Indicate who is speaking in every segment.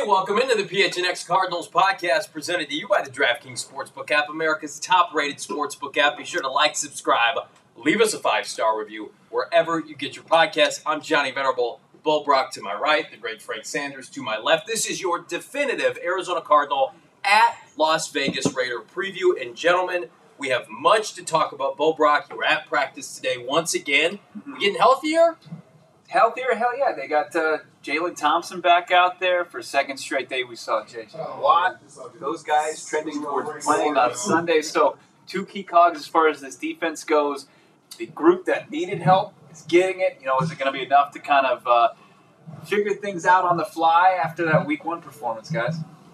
Speaker 1: welcome into the PHNX Cardinals podcast presented to you by the DraftKings Sportsbook app, America's top-rated sportsbook app. Be sure to like, subscribe, leave us a 5-star review wherever you get your podcasts. I'm Johnny Venerable, Bo Brock to my right, the great Frank Sanders to my left. This is your definitive Arizona Cardinal at Las Vegas Raider preview. And gentlemen, we have much to talk about. Bo Brock, you were at practice today once again. We getting healthier?
Speaker 2: Healthier? Hell yeah. They got Jalen Thompson back out there. For a second straight day, we saw J.J. Watt. Those guys trending towards playing on Sunday. So, two key cogs as far as this defense goes. The group that needed help is getting it. Is it going to be enough to kind of figure things out on the fly after that Week 1 performance, guys?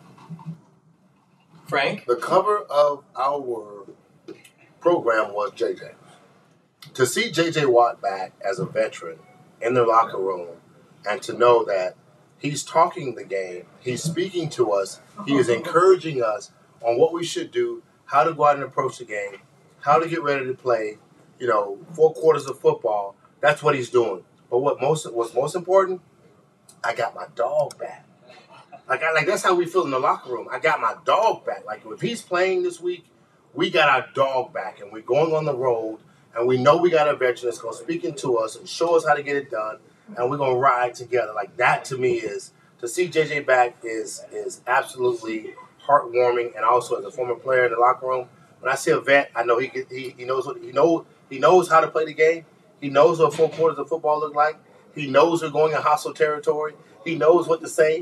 Speaker 1: Frank?
Speaker 3: The cover of our program was J.J. To see J.J. Watt back as a veteran in the locker room and to know that he's talking the game, he's speaking to us, he is encouraging us on what we should do, how to go out and approach the game, how to get ready to play, 4 quarters of football. That's what he's doing. But what's most important, I got my dog back. That's how we feel in the locker room. I got my dog back. Like, if he's playing this week, we got our dog back, and we're going on the road, and we know we got a veteran that's going to speak into us and show us how to get it done, and we're going to ride together. Like, that to me is, to see JJ back is absolutely heartwarming. And also, as a former player in the locker room, when I see a vet, I know he knows how to play the game. He knows what 4 quarters of football look like. He knows we're going in hostile territory. He knows what to say.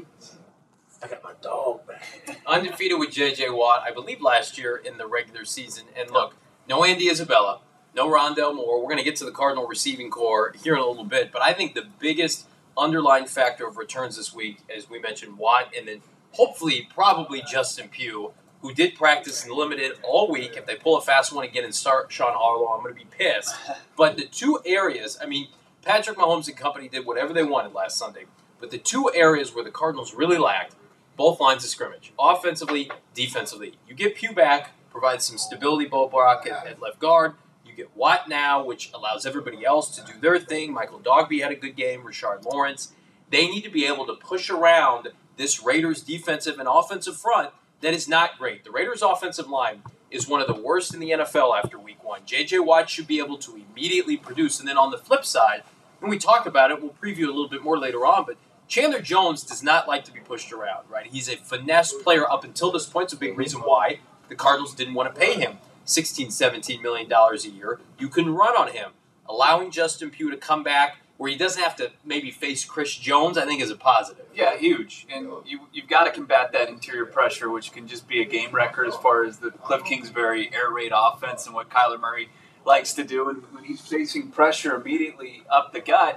Speaker 3: I got my dog back.
Speaker 1: Undefeated with J.J. Watt, I believe last year in the regular season. And look, no Andy Isabella, no Rondale Moore. We're going to get to the Cardinal receiving core here in a little bit. But I think the biggest underlying factor of returns this week, as we mentioned, Watt, and then hopefully probably Justin Pugh, who did practice and limited all week. If they pull a fast one again and start Sean Harlow, I'm going to be pissed. But the two areas, Patrick Mahomes and company did whatever they wanted last Sunday. But the two areas where the Cardinals really lacked, both lines of scrimmage, offensively, defensively. You get Pugh back, provides some stability, Bo Brock at left guard. You get Watt now, which allows everybody else to do their thing. Michael Dogby had a good game, Rashard Lawrence. They need to be able to push around this Raiders defensive and offensive front that is not great. The Raiders offensive line is one of the worst in the NFL after Week 1. J.J. Watt should be able to immediately produce. And then on the flip side, when we talk about it, we'll preview a little bit more later on, but Chandler Jones does not like to be pushed around, right? He's a finesse player up until this point. It's a big reason why the Cardinals didn't want to pay him $16, $17 million a year. You can run on him. Allowing Justin Pugh to come back where he doesn't have to maybe face Chris Jones, I think is a positive.
Speaker 2: Yeah, huge. And you've got to combat that interior pressure, which can just be a game record as far as the Cliff Kingsbury air raid offense and what Kyler Murray likes to do. And when he's facing pressure immediately up the gut,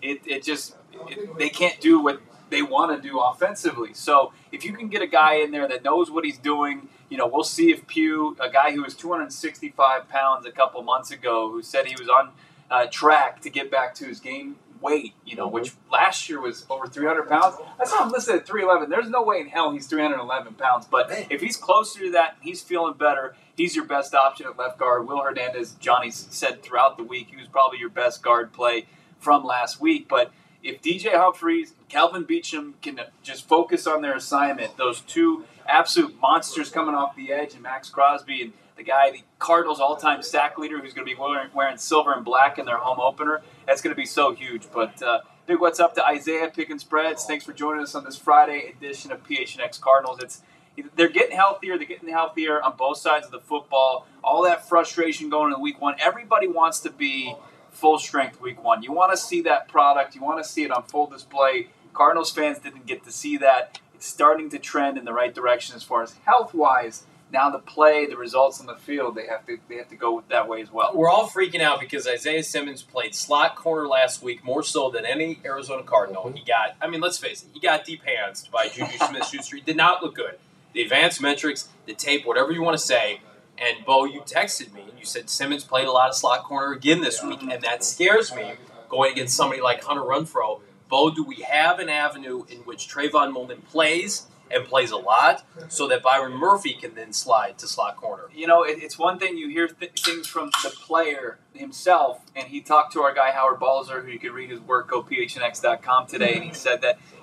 Speaker 2: they can't do what they want to do offensively. So if you can get a guy in there that knows what he's doing, we'll see if Pugh, a guy who was 265 pounds a couple months ago, who said he was on track to get back to his game weight, which last year was over 300 pounds. I saw him listed at 311. There's no way in hell he's 311 pounds. But if he's closer to that, he's feeling better. He's your best option at left guard. Will Hernandez, Johnny said throughout the week, he was probably your best guard play from last week. But if DJ Humphries, Calvin Beachum can just focus on their assignment, those two absolute monsters coming off the edge, and Max Crosby and the Cardinals' all-time sack leader, who's going to be wearing silver and black in their home opener, that's going to be so huge. But big what's up to Isaiah Picking Spreads. Thanks for joining us on this Friday edition of PHNX Cardinals. They're getting healthier. They're getting healthier on both sides of the football. All that frustration going into Week 1. Everybody wants to be full strength Week 1. You want to see that product. You want to see it on full display. Cardinals fans didn't get to see that. It's starting to trend in the right direction as far as health-wise. Now the play, the results on the field, they have to go that way as well.
Speaker 1: We're all freaking out because Isaiah Simmons played slot corner last week more so than any Arizona Cardinal. He got, let's face it, he got deep-handsed by Juju Smith-Schuster. He did not look good. The advanced metrics, the tape, whatever you want to say. And, Bo, you texted me, and you said Simmons played a lot of slot corner again this week, and that scares me going against somebody like Hunter Renfrow. Bo, do we have an avenue in which Trayvon Mullen plays and plays a lot so that Byron Murphy can then slide to slot corner?
Speaker 2: It's one thing you hear things from the player himself, and he talked to our guy Howard Balzer, who you can read his work, go phnx.com today, and he said that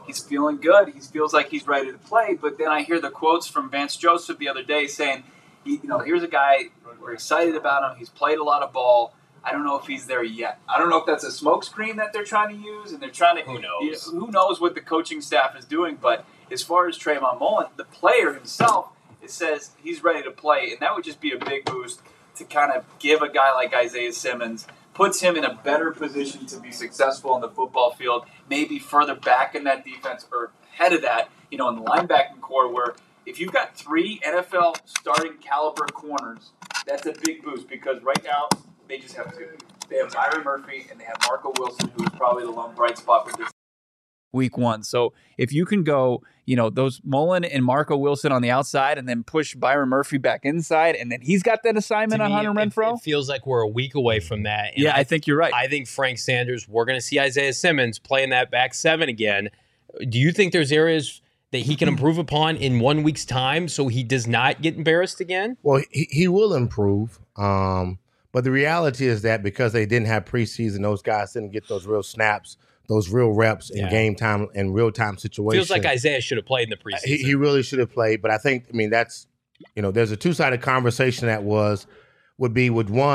Speaker 2: He's feeling good. He feels like he's ready to play. But then I hear the quotes from Vance Joseph the other day saying, here's a guy, we're excited about him. He's played a lot of ball. I don't know if he's there yet. I don't know if that's a smokescreen that they're trying to use, and they're trying to.
Speaker 1: Who knows?
Speaker 2: Who knows what the coaching staff is doing? But as far as Trayvon Mullen, the player himself, it says he's ready to play, and that would just be a big boost to kind of give a guy like Isaiah Simmons, puts him in a better position to be successful on the football field, maybe further back in that defense or ahead of that, in the linebacking core where if you've got 3 NFL starting caliber corners, that's a big boost because right now they just have 2. They have Byron Murphy and they have Marco Wilson, who is probably the lone bright spot for this
Speaker 4: week 1. So if you can go, those Mullen and Marco Wilson on the outside and then push Byron Murphy back inside, and then he's got that assignment on Hunter Renfrow.
Speaker 5: It feels like we're a week away from that. And
Speaker 4: yeah, I think you're right.
Speaker 5: I think Frank Sanders, we're going to see Isaiah Simmons playing that back 7 again. Do you think there's areas that he can improve upon in 1 week's time so he does not get embarrassed again?
Speaker 3: Well, he will improve. But the reality is that because they didn't have preseason, those guys didn't get those real snaps, those real reps in game time and real time situations.
Speaker 5: Feels like Isaiah should have played in the preseason.
Speaker 3: He really should have played. But I think, that's, there's a two-sided conversation that would be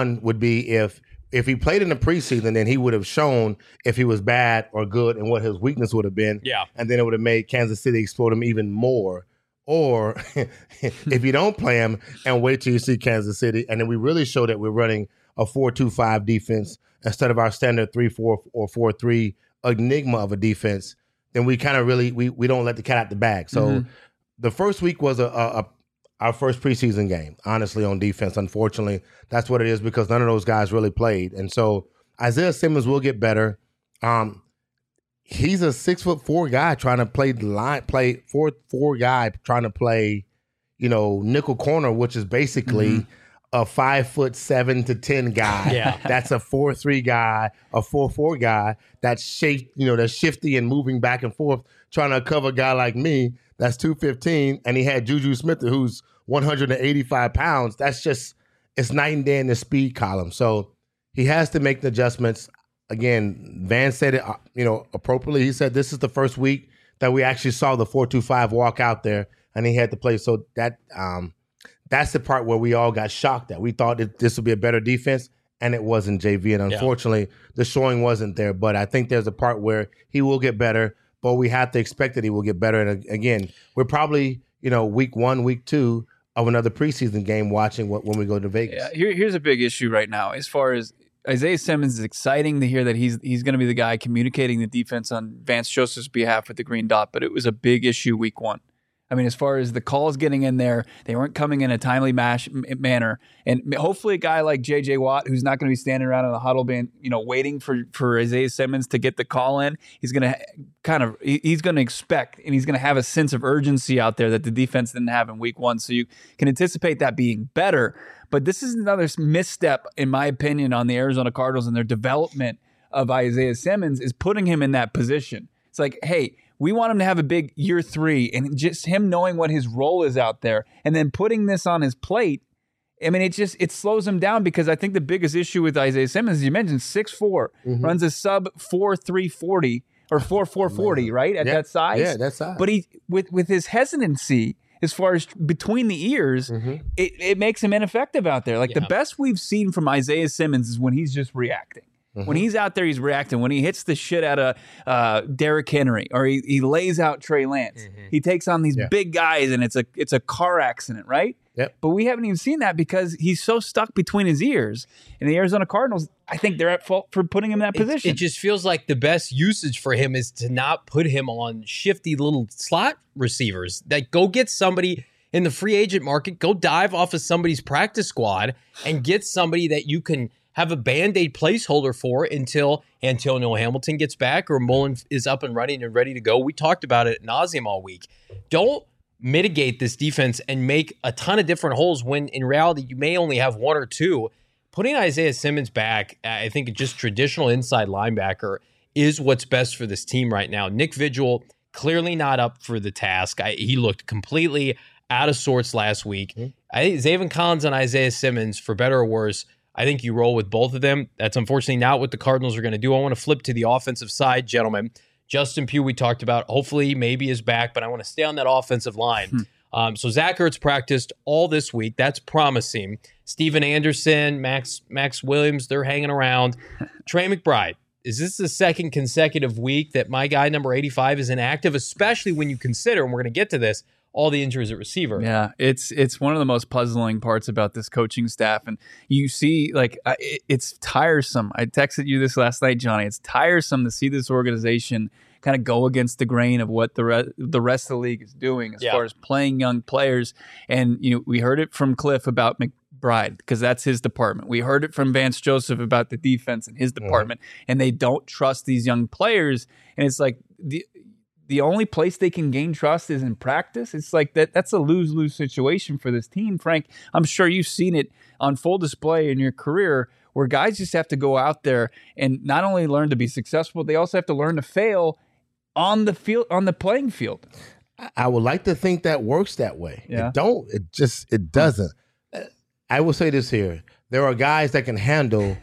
Speaker 3: if he played in the preseason, then he would have shown if he was bad or good and what his weakness would have been.
Speaker 5: Yeah. And
Speaker 3: then it would have made Kansas City explode him even more. Or if you don't play him and wait till you see Kansas City, and then we really show that we're running a 4-2-5 defense instead of our standard 3-4 or 4-3 enigma of a defense, then we kind of really we don't let the cat out the bag. So the first week was our first preseason game, honestly, on defense. Unfortunately, that's what it is because none of those guys really played. And so Isaiah Simmons will get better. He's a 6'4" guy trying to play 4 guy trying to play, nickel corner, which is basically a 5'7" to 10 guy.
Speaker 5: Yeah.
Speaker 3: That's a 4-3 guy, a 4-4 guy that's that's shifty and moving back and forth, trying to cover a guy like me that's 215, and he had Juju Smith who's 185 pounds. That's just, it's night and day in the speed column. So he has to make the adjustments. Again, Van said it, appropriately. He said this is the first week that we actually saw the 4-2-5 walk out there, and he had to play. So that's the part where we all got shocked at. We thought that this would be a better defense, and it wasn't, JV. And unfortunately, the showing wasn't there. But I think there's a part where he will get better, but we have to expect that he will get better. And again, we're probably, week 1, week 2 of another preseason game watching when we go to Vegas.
Speaker 4: Yeah, here's a big issue right now as far as Isaiah Simmons. Is exciting to hear that he's going to be the guy communicating the defense on Vance Joseph's behalf with the green dot, but it was a big issue week 1. I mean, as far as the calls getting in there, they weren't coming in a timely manner. And hopefully a guy like J.J. Watt, who's not going to be standing around in the huddle being, waiting for Isaiah Simmons to get the call in, he's going to he's going to expect and he's going to have a sense of urgency out there that the defense didn't have in week 1. So you can anticipate that being better. But this is another misstep, in my opinion, on the Arizona Cardinals and their development of Isaiah Simmons is putting him in that position. It's like, hey, we want him to have a big year 3 and just him knowing what his role is out there and then putting this on his plate. I mean, it slows him down because I think the biggest issue with Isaiah Simmons, you mentioned 6'4", runs a sub 4.340 or 4.440, right? At that size.
Speaker 3: Yeah, that size.
Speaker 4: But he with his hesitancy as far as between the ears, it makes him ineffective out there. Like the best we've seen from Isaiah Simmons is when he's just reacting. When he's out there, he's reacting. When he hits the shit out of Derrick Henry or he lays out Trey Lance, he takes on these big guys and it's a car accident, right?
Speaker 3: Yep.
Speaker 4: But we haven't even seen that because he's so stuck between his ears. And the Arizona Cardinals, I think they're at fault for putting him in that position.
Speaker 5: It just feels like the best usage for him is to not put him on shifty little slot receivers. That go get somebody in the free agent market, go dive off of somebody's practice squad and get somebody that you can have a Band-Aid placeholder for until Antonio Hamilton gets back or Mullen is up and running and ready to go. We talked about it ad nauseum all week. Don't mitigate this defense and make a ton of different holes when in reality you may only have 1 or 2. Putting Isaiah Simmons back, I think just traditional inside linebacker is what's best for this team right now. Nick Vigil, clearly not up for the task. He looked completely out of sorts last week. I think Zaven Collins and Isaiah Simmons, for better or worse, I think you roll with both of them. That's unfortunately not what the Cardinals are going to do. I want to flip to the offensive side, gentlemen. Justin Pugh, we talked about, hopefully maybe is back, but I want to stay on that offensive line. So Zach Ertz practiced all this week. That's promising. Steven Anderson, Max Williams, they're hanging around. Trey McBride, is this the second consecutive week that my guy, number 85, is inactive, especially when you consider, and we're going to get to this, all the injuries at receiver?
Speaker 4: Yeah, it's one of the most puzzling parts about this coaching staff. And you see, like, it's tiresome. I texted you this last night, Johnny. It's tiresome to see this organization kind of go against the grain of what the rest of the league is doing as far as playing young players. And we heard it from Cliff about McBride because that's his department. We heard it from Vance Joseph about the defense in his department, and they don't trust these young players. And it's like the only place they can gain trust is in practice. It's like that's a lose-lose situation for this team, Frank. I'm sure you've seen it on full display in your career where guys just have to go out there and not only learn to be successful, they also have to learn to fail on the field, on the playing field.
Speaker 6: I would like to think that works that way.
Speaker 4: Yeah.
Speaker 6: It doesn't. I will say this here. There are guys that can handle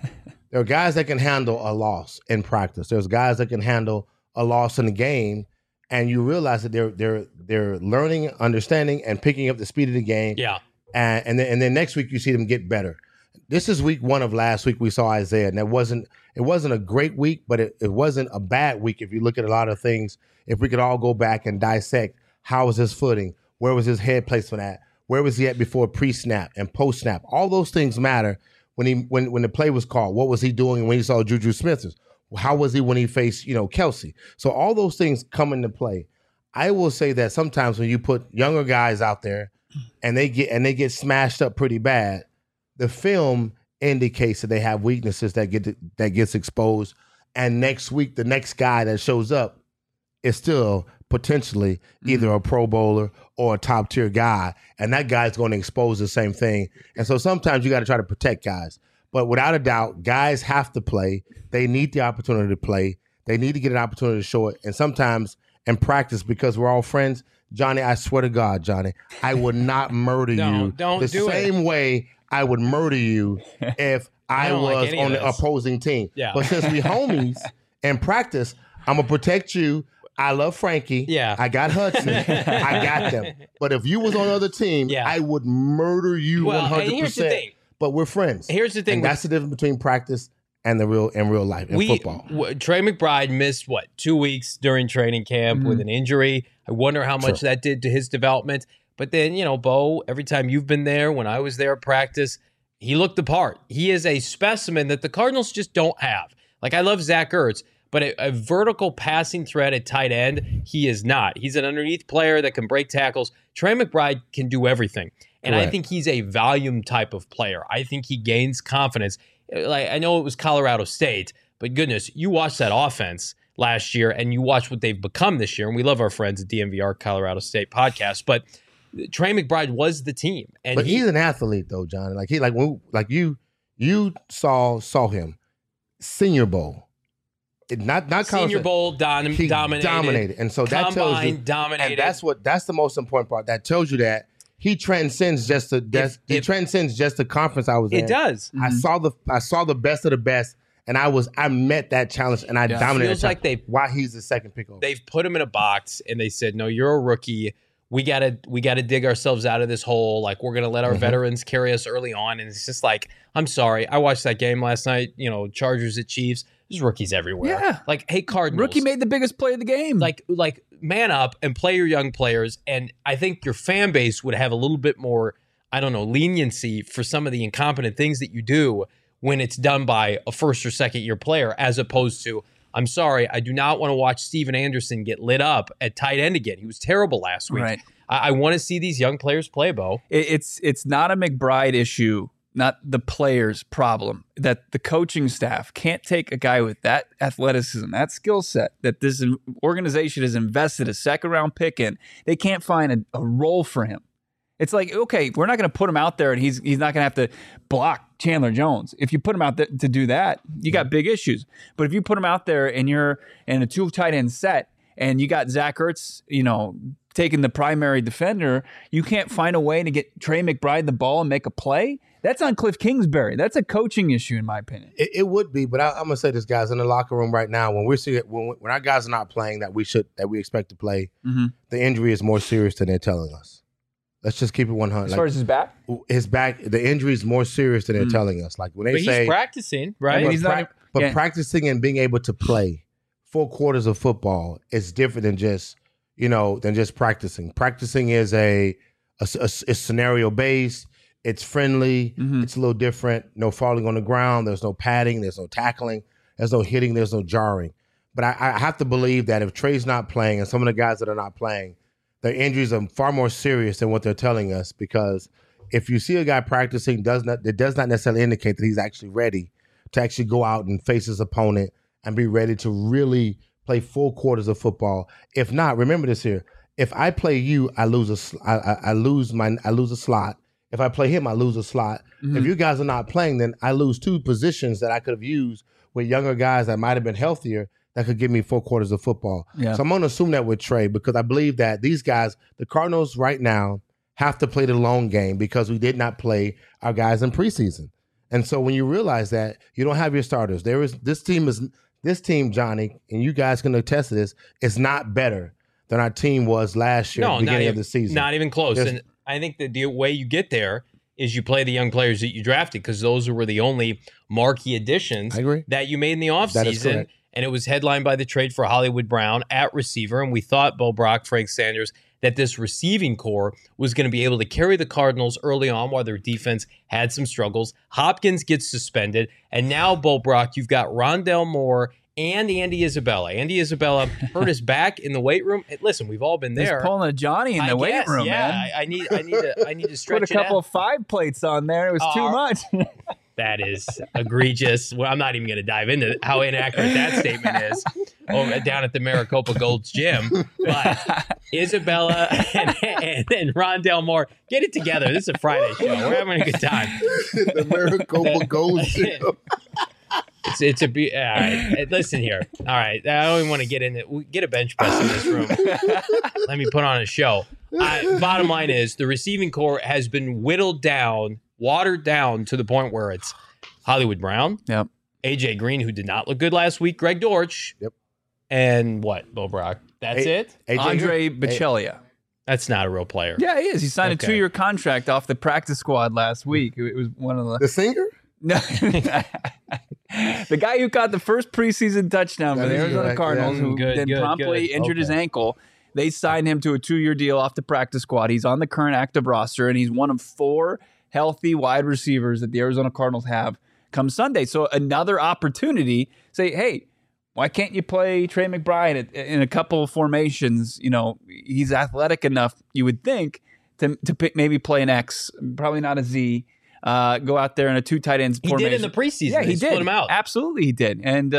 Speaker 6: a loss in practice. There's guys that can handle a loss in the game, and you realize that they're learning, understanding, and picking up the speed of the game.
Speaker 5: Yeah.
Speaker 6: And then next week you see them get better. This is week 1 of last week. We saw Isaiah, and it wasn't a great week, but it wasn't a bad week if you look at a lot of things. If we could all go back and dissect, how was his footing? Where was his head placement at? Where was he at before pre-snap and post-snap? All those things matter when the play was called. What was he doing when he saw Juju Smith? How was he when he faced Kelsey? So all those things come into play. I will say that sometimes when you put younger guys out there and they get smashed up pretty bad, the film indicates that they have weaknesses that gets exposed, and next week the next guy that shows up is still potentially either a Pro Bowler or a top tier guy, and that guy's going to expose the same thing. And so sometimes you got to try to protect guys, but without a doubt, guys have to play. They need the opportunity to play. They need to get an opportunity to show it, and sometimes in practice, because we're all friends, Johnny, I swear to God, Johnny, I would not murder you the same way I would murder you if I was on the opposing team.
Speaker 5: Yeah.
Speaker 6: But since we homies in practice, I'm going to protect you. I love Frankie.
Speaker 5: Yeah.
Speaker 6: I got Hudson. I got them. But if you was on the other team, I would murder you 100%.
Speaker 5: And here's the thing.
Speaker 6: But we're friends.
Speaker 5: Here's the thing.
Speaker 6: And that's the difference between practice and real life in football.
Speaker 5: Trey McBride missed 2 weeks during training camp with an injury. I wonder how much that did to his development. But then, Bo, every time you've been there, when I was there at practice, he looked the part. He is a specimen that the Cardinals just don't have. Like, I love Zach Ertz, but a vertical passing threat at tight end, he is not. He's an underneath player that can break tackles. Trey McBride can do everything. And I think he's a volume type of player. I think he gains confidence. Like, I know it was Colorado State, but goodness, you watch that offense last year and you watch what they've become this year. And we love our friends at DMVR Colorado State podcast, but Trey McBride was the team. And
Speaker 6: but he's an athlete though, John. You saw him Senior Bowl. Not
Speaker 5: Senior Bowl
Speaker 6: dominated. And so that tells you
Speaker 5: dominated.
Speaker 6: And that's the most important part. That tells you that he transcends just the conference I was in.
Speaker 5: It does.
Speaker 6: I saw the best of the best, and I met that challenge, and I dominated.
Speaker 5: Feels like
Speaker 6: why he's the second pick over.
Speaker 5: They've put him in a box, and they said, "No, you're a rookie. We gotta dig ourselves out of this hole. Like, we're gonna let our veterans carry us early on." And it's just like, I'm sorry. I watched that game last night. Chargers at Chiefs. There's rookies everywhere.
Speaker 4: Yeah.
Speaker 5: Like, hey, Cardinals.
Speaker 4: Rookie made the biggest play of the game.
Speaker 5: Like man up and play your young players. And I think your fan base would have a little bit more, leniency for some of the incompetent things that you do when it's done by a first or second year player, as opposed to, I'm sorry, I do not want to watch Steven Anderson get lit up at tight end again. He was terrible last week.
Speaker 4: Right.
Speaker 5: I want to see these young players play, Bo.
Speaker 4: It's not a McBride issue, not the players' problem, that the coaching staff can't take a guy with that athleticism, that skill set, that this organization has invested a second-round pick in. They can't find a role for him. It's like, okay, we're not going to put him out there and he's not going to have to block Chandler Jones. If you put him out there to do that, you got big issues. But if you put him out there and you're in a 2 tight end set and you got Zach Ertz, taking the primary defender, you can't find a way to get Trey McBride the ball and make a play. That's on Cliff Kingsbury. That's a coaching issue, in my opinion.
Speaker 6: It would be, but I'm gonna say this, guys, in the locker room right now, when when our guys are not playing that we expect to play, the injury is more serious than they're telling us. Let's just keep it 100.
Speaker 4: As far as his back,
Speaker 6: the injury is more serious than they're telling us. Like when they
Speaker 5: But
Speaker 6: say
Speaker 5: he's practicing, right?
Speaker 6: but practicing and being able to play 4 quarters of football is different than just practicing. Practicing is a scenario based. It's friendly. It's a little different. No falling on the ground. There's no padding. There's no tackling. There's no hitting. There's no jarring. But I have to believe that if Trey's not playing and some of the guys that are not playing, their injuries are far more serious than what they're telling us. Because if you see a guy practicing, it does not necessarily indicate that he's actually ready to actually go out and face his opponent and be ready to really play 4 quarters of football. If not, remember this here: if I play you, I lose a slot. If I play him, I lose a slot. If you guys are not playing, then I lose 2 positions that I could have used with younger guys that might have been healthier that could give me 4 quarters of football.
Speaker 4: Yeah.
Speaker 6: So I'm going to assume that with Trey, because I believe that these guys, the Cardinals right now, have to play the long game because we did not play our guys in preseason. And so when you realize that you don't have your starters, this team, Johnny, and you guys can attest to this, is not better than our team was last year at the beginning of the season.
Speaker 5: Not even close. And I think the way you get there is you play the young players that you drafted, because those were the only marquee additions that you made in the offseason. And it was headlined by the trade for Hollywood Brown at receiver. And we thought Bo Brock, Frank Sanders, that this receiving core was going to be able to carry the Cardinals early on while their defense had some struggles. Hopkins gets suspended. And now, Bo Brock, you've got Rondell Moore and Andy Isabella. Andy Isabella hurt his back in the weight room. And listen, we've all been there.
Speaker 4: He's pulling a Johnny in the weight room, man.
Speaker 5: I need to stretch
Speaker 4: Put a couple of 5 plates on there. It was too much.
Speaker 5: That is egregious. Well, I'm not even going to dive into how inaccurate that statement is down at the Maricopa Gold's gym. But Isabella and Rondell Moore, get it together. This is a Friday show. We're having a good time.
Speaker 6: The Maricopa Gold's gym.
Speaker 5: It's a all right. Listen here. All right, I don't even want to get in it. We get a bench press in this room. Let me put on a show. Bottom line is the receiving core has been whittled down, watered down to the point where it's Hollywood Brown, AJ Green, who did not look good last week, Greg Dortch, and what, Bo Brock? That's it.
Speaker 4: Andre Bichellia.
Speaker 5: That's not a real player.
Speaker 4: Yeah, he is. He signed a 2-year contract off the practice squad last week. It was one of
Speaker 6: the singer.
Speaker 4: No, the guy who caught the first preseason touchdown for the Arizona Cardinals, who then promptly injured his ankle. They signed him to a 2-year deal off the practice squad. He's on the current active roster, and he's one of 4 healthy wide receivers that the Arizona Cardinals have come Sunday. So another opportunity. Say, hey, why can't you play Trey McBride in a couple of formations? You know, he's athletic enough, you would think, to maybe play an X, probably not a Z. Go out there in a 2 tight ends formation.
Speaker 5: He did in the preseason.
Speaker 4: Yeah, he did.
Speaker 5: Split him out.
Speaker 4: Absolutely, he did. And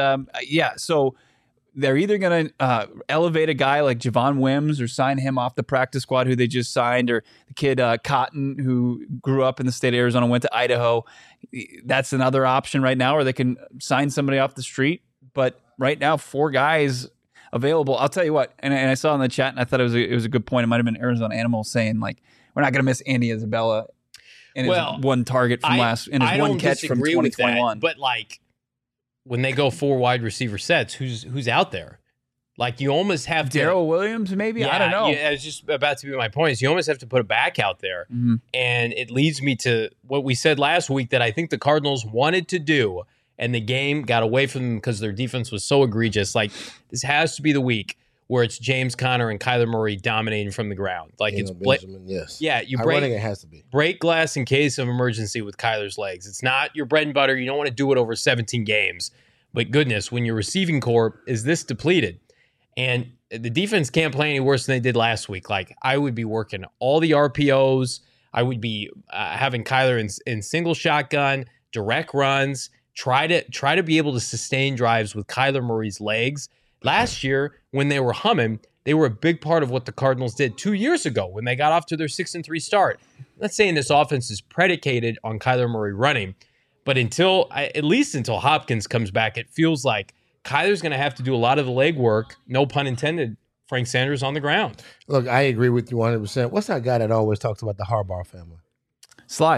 Speaker 4: so they're either going to elevate a guy like Javon Wims or sign him off the practice squad, who they just signed, or the kid Cotton, who grew up in the state of Arizona, went to Idaho. That's another option right now, or they can sign somebody off the street. But right now, 4 guys available. I'll tell you what, and I saw in the chat, and I thought it was a good point. It might have been Arizona Animal saying, like, we're not going to miss Andy Isabella in his one target from one catch from 2021.
Speaker 5: But like, when they go 4 wide receiver sets, who's out there? Like, you almost have
Speaker 4: Darrell Williams, maybe?
Speaker 5: Yeah,
Speaker 4: I don't know.
Speaker 5: Yeah, it's just about to be my point. Is you almost have to put a back out there.
Speaker 4: Mm-hmm.
Speaker 5: And it leads me to what we said last week that I think the Cardinals wanted to do, and the game got away from them because their defense was so egregious. Like, this has to be the week where it's James Conner and Kyler Murray dominating from the ground. Like, it's
Speaker 6: Benjamin, yes.
Speaker 5: Yeah, you
Speaker 6: I think it has to be.
Speaker 5: Break glass in case of emergency with Kyler's legs. It's not your bread and butter. You don't want to do it over 17 games. But goodness, when your receiving core is this depleted, and the defense can't play any worse than they did last week. Like, I would be working all the RPOs. I would be having Kyler in single shotgun, direct runs, try to be able to sustain drives with Kyler Murray's legs. Last year, when they were humming, they were a big part of what the Cardinals did 2 years ago when they got off to their 6-3 start. I'm not saying this offense is predicated on Kyler Murray running, but at least until Hopkins comes back, it feels like Kyler's going to have to do a lot of the legwork, no pun intended, Frank Sanders on the ground.
Speaker 6: Look, I agree with you 100%. What's that guy that always talks about the Harbaugh family?
Speaker 4: Sly.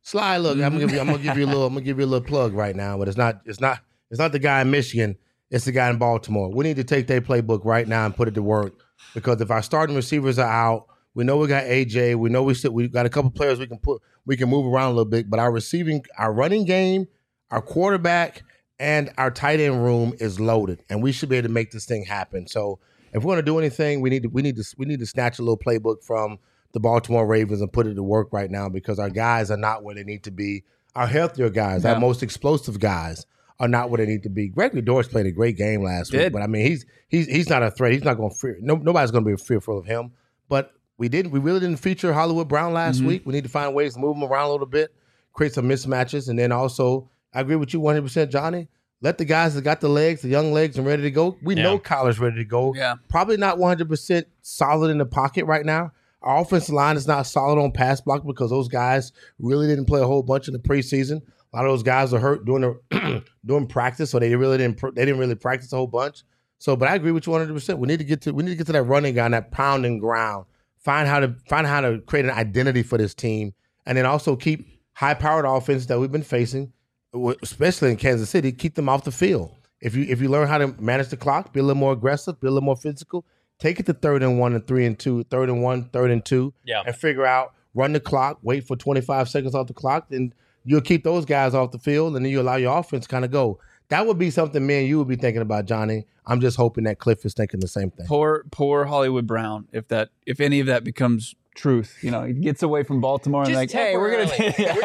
Speaker 6: Sly, look, I'm gonna give you a little plug right now, but it's not the guy in Michigan. It's the guy in Baltimore. We need to take their playbook right now and put it to work, because if our starting receivers are out, we know we got AJ. We know we got a couple players we can move around a little bit, but our running game, our quarterback, and our tight end room is loaded, and we should be able to make this thing happen. So if we're going to do anything, we need to snatch a little playbook from the Baltimore Ravens and put it to work right now, because our guys are not where they need to be. Our healthier guys, our most explosive guys, are not where they need to be. Gregory Dortch played a great game last week, but I mean he's not a threat. He's not going to fear. Nobody's going to be fearful of him. But we really didn't feature Hollywood Brown last week. We need to find ways to move him around a little bit, create some mismatches, and then also I agree with you 100%, Johnny. Let the guys that got the legs, the young legs, and ready to go. We know Kyler's ready to go. Yeah. Probably not 100% solid in the pocket right now. Our offensive line is not solid on pass block because those guys really didn't play a whole bunch in the preseason. A lot of those guys are hurt during practice, so they didn't really practice a whole bunch. So, but I agree with you 100%. We need to get to that running guy, that pounding ground. Find how to create an identity for this team, and then also keep high-powered offenses that we've been facing, especially in Kansas City, keep them off the field. If you learn how to manage the clock, be a little more aggressive, be a little more physical, take it to 3rd and 1 and 3 and 2, 3rd and 1, 3rd and 2, and figure out, run the clock, wait for 25 seconds off the clock, then you'll keep those guys off the field, and then you allow your offense to kind of go. That would be something me and you would be thinking about, Johnny. I'm just hoping that Cliff is thinking the same thing.
Speaker 4: Poor Hollywood Brown. If any of that becomes truth, he gets away from Baltimore and
Speaker 5: just
Speaker 4: hey, we're gonna.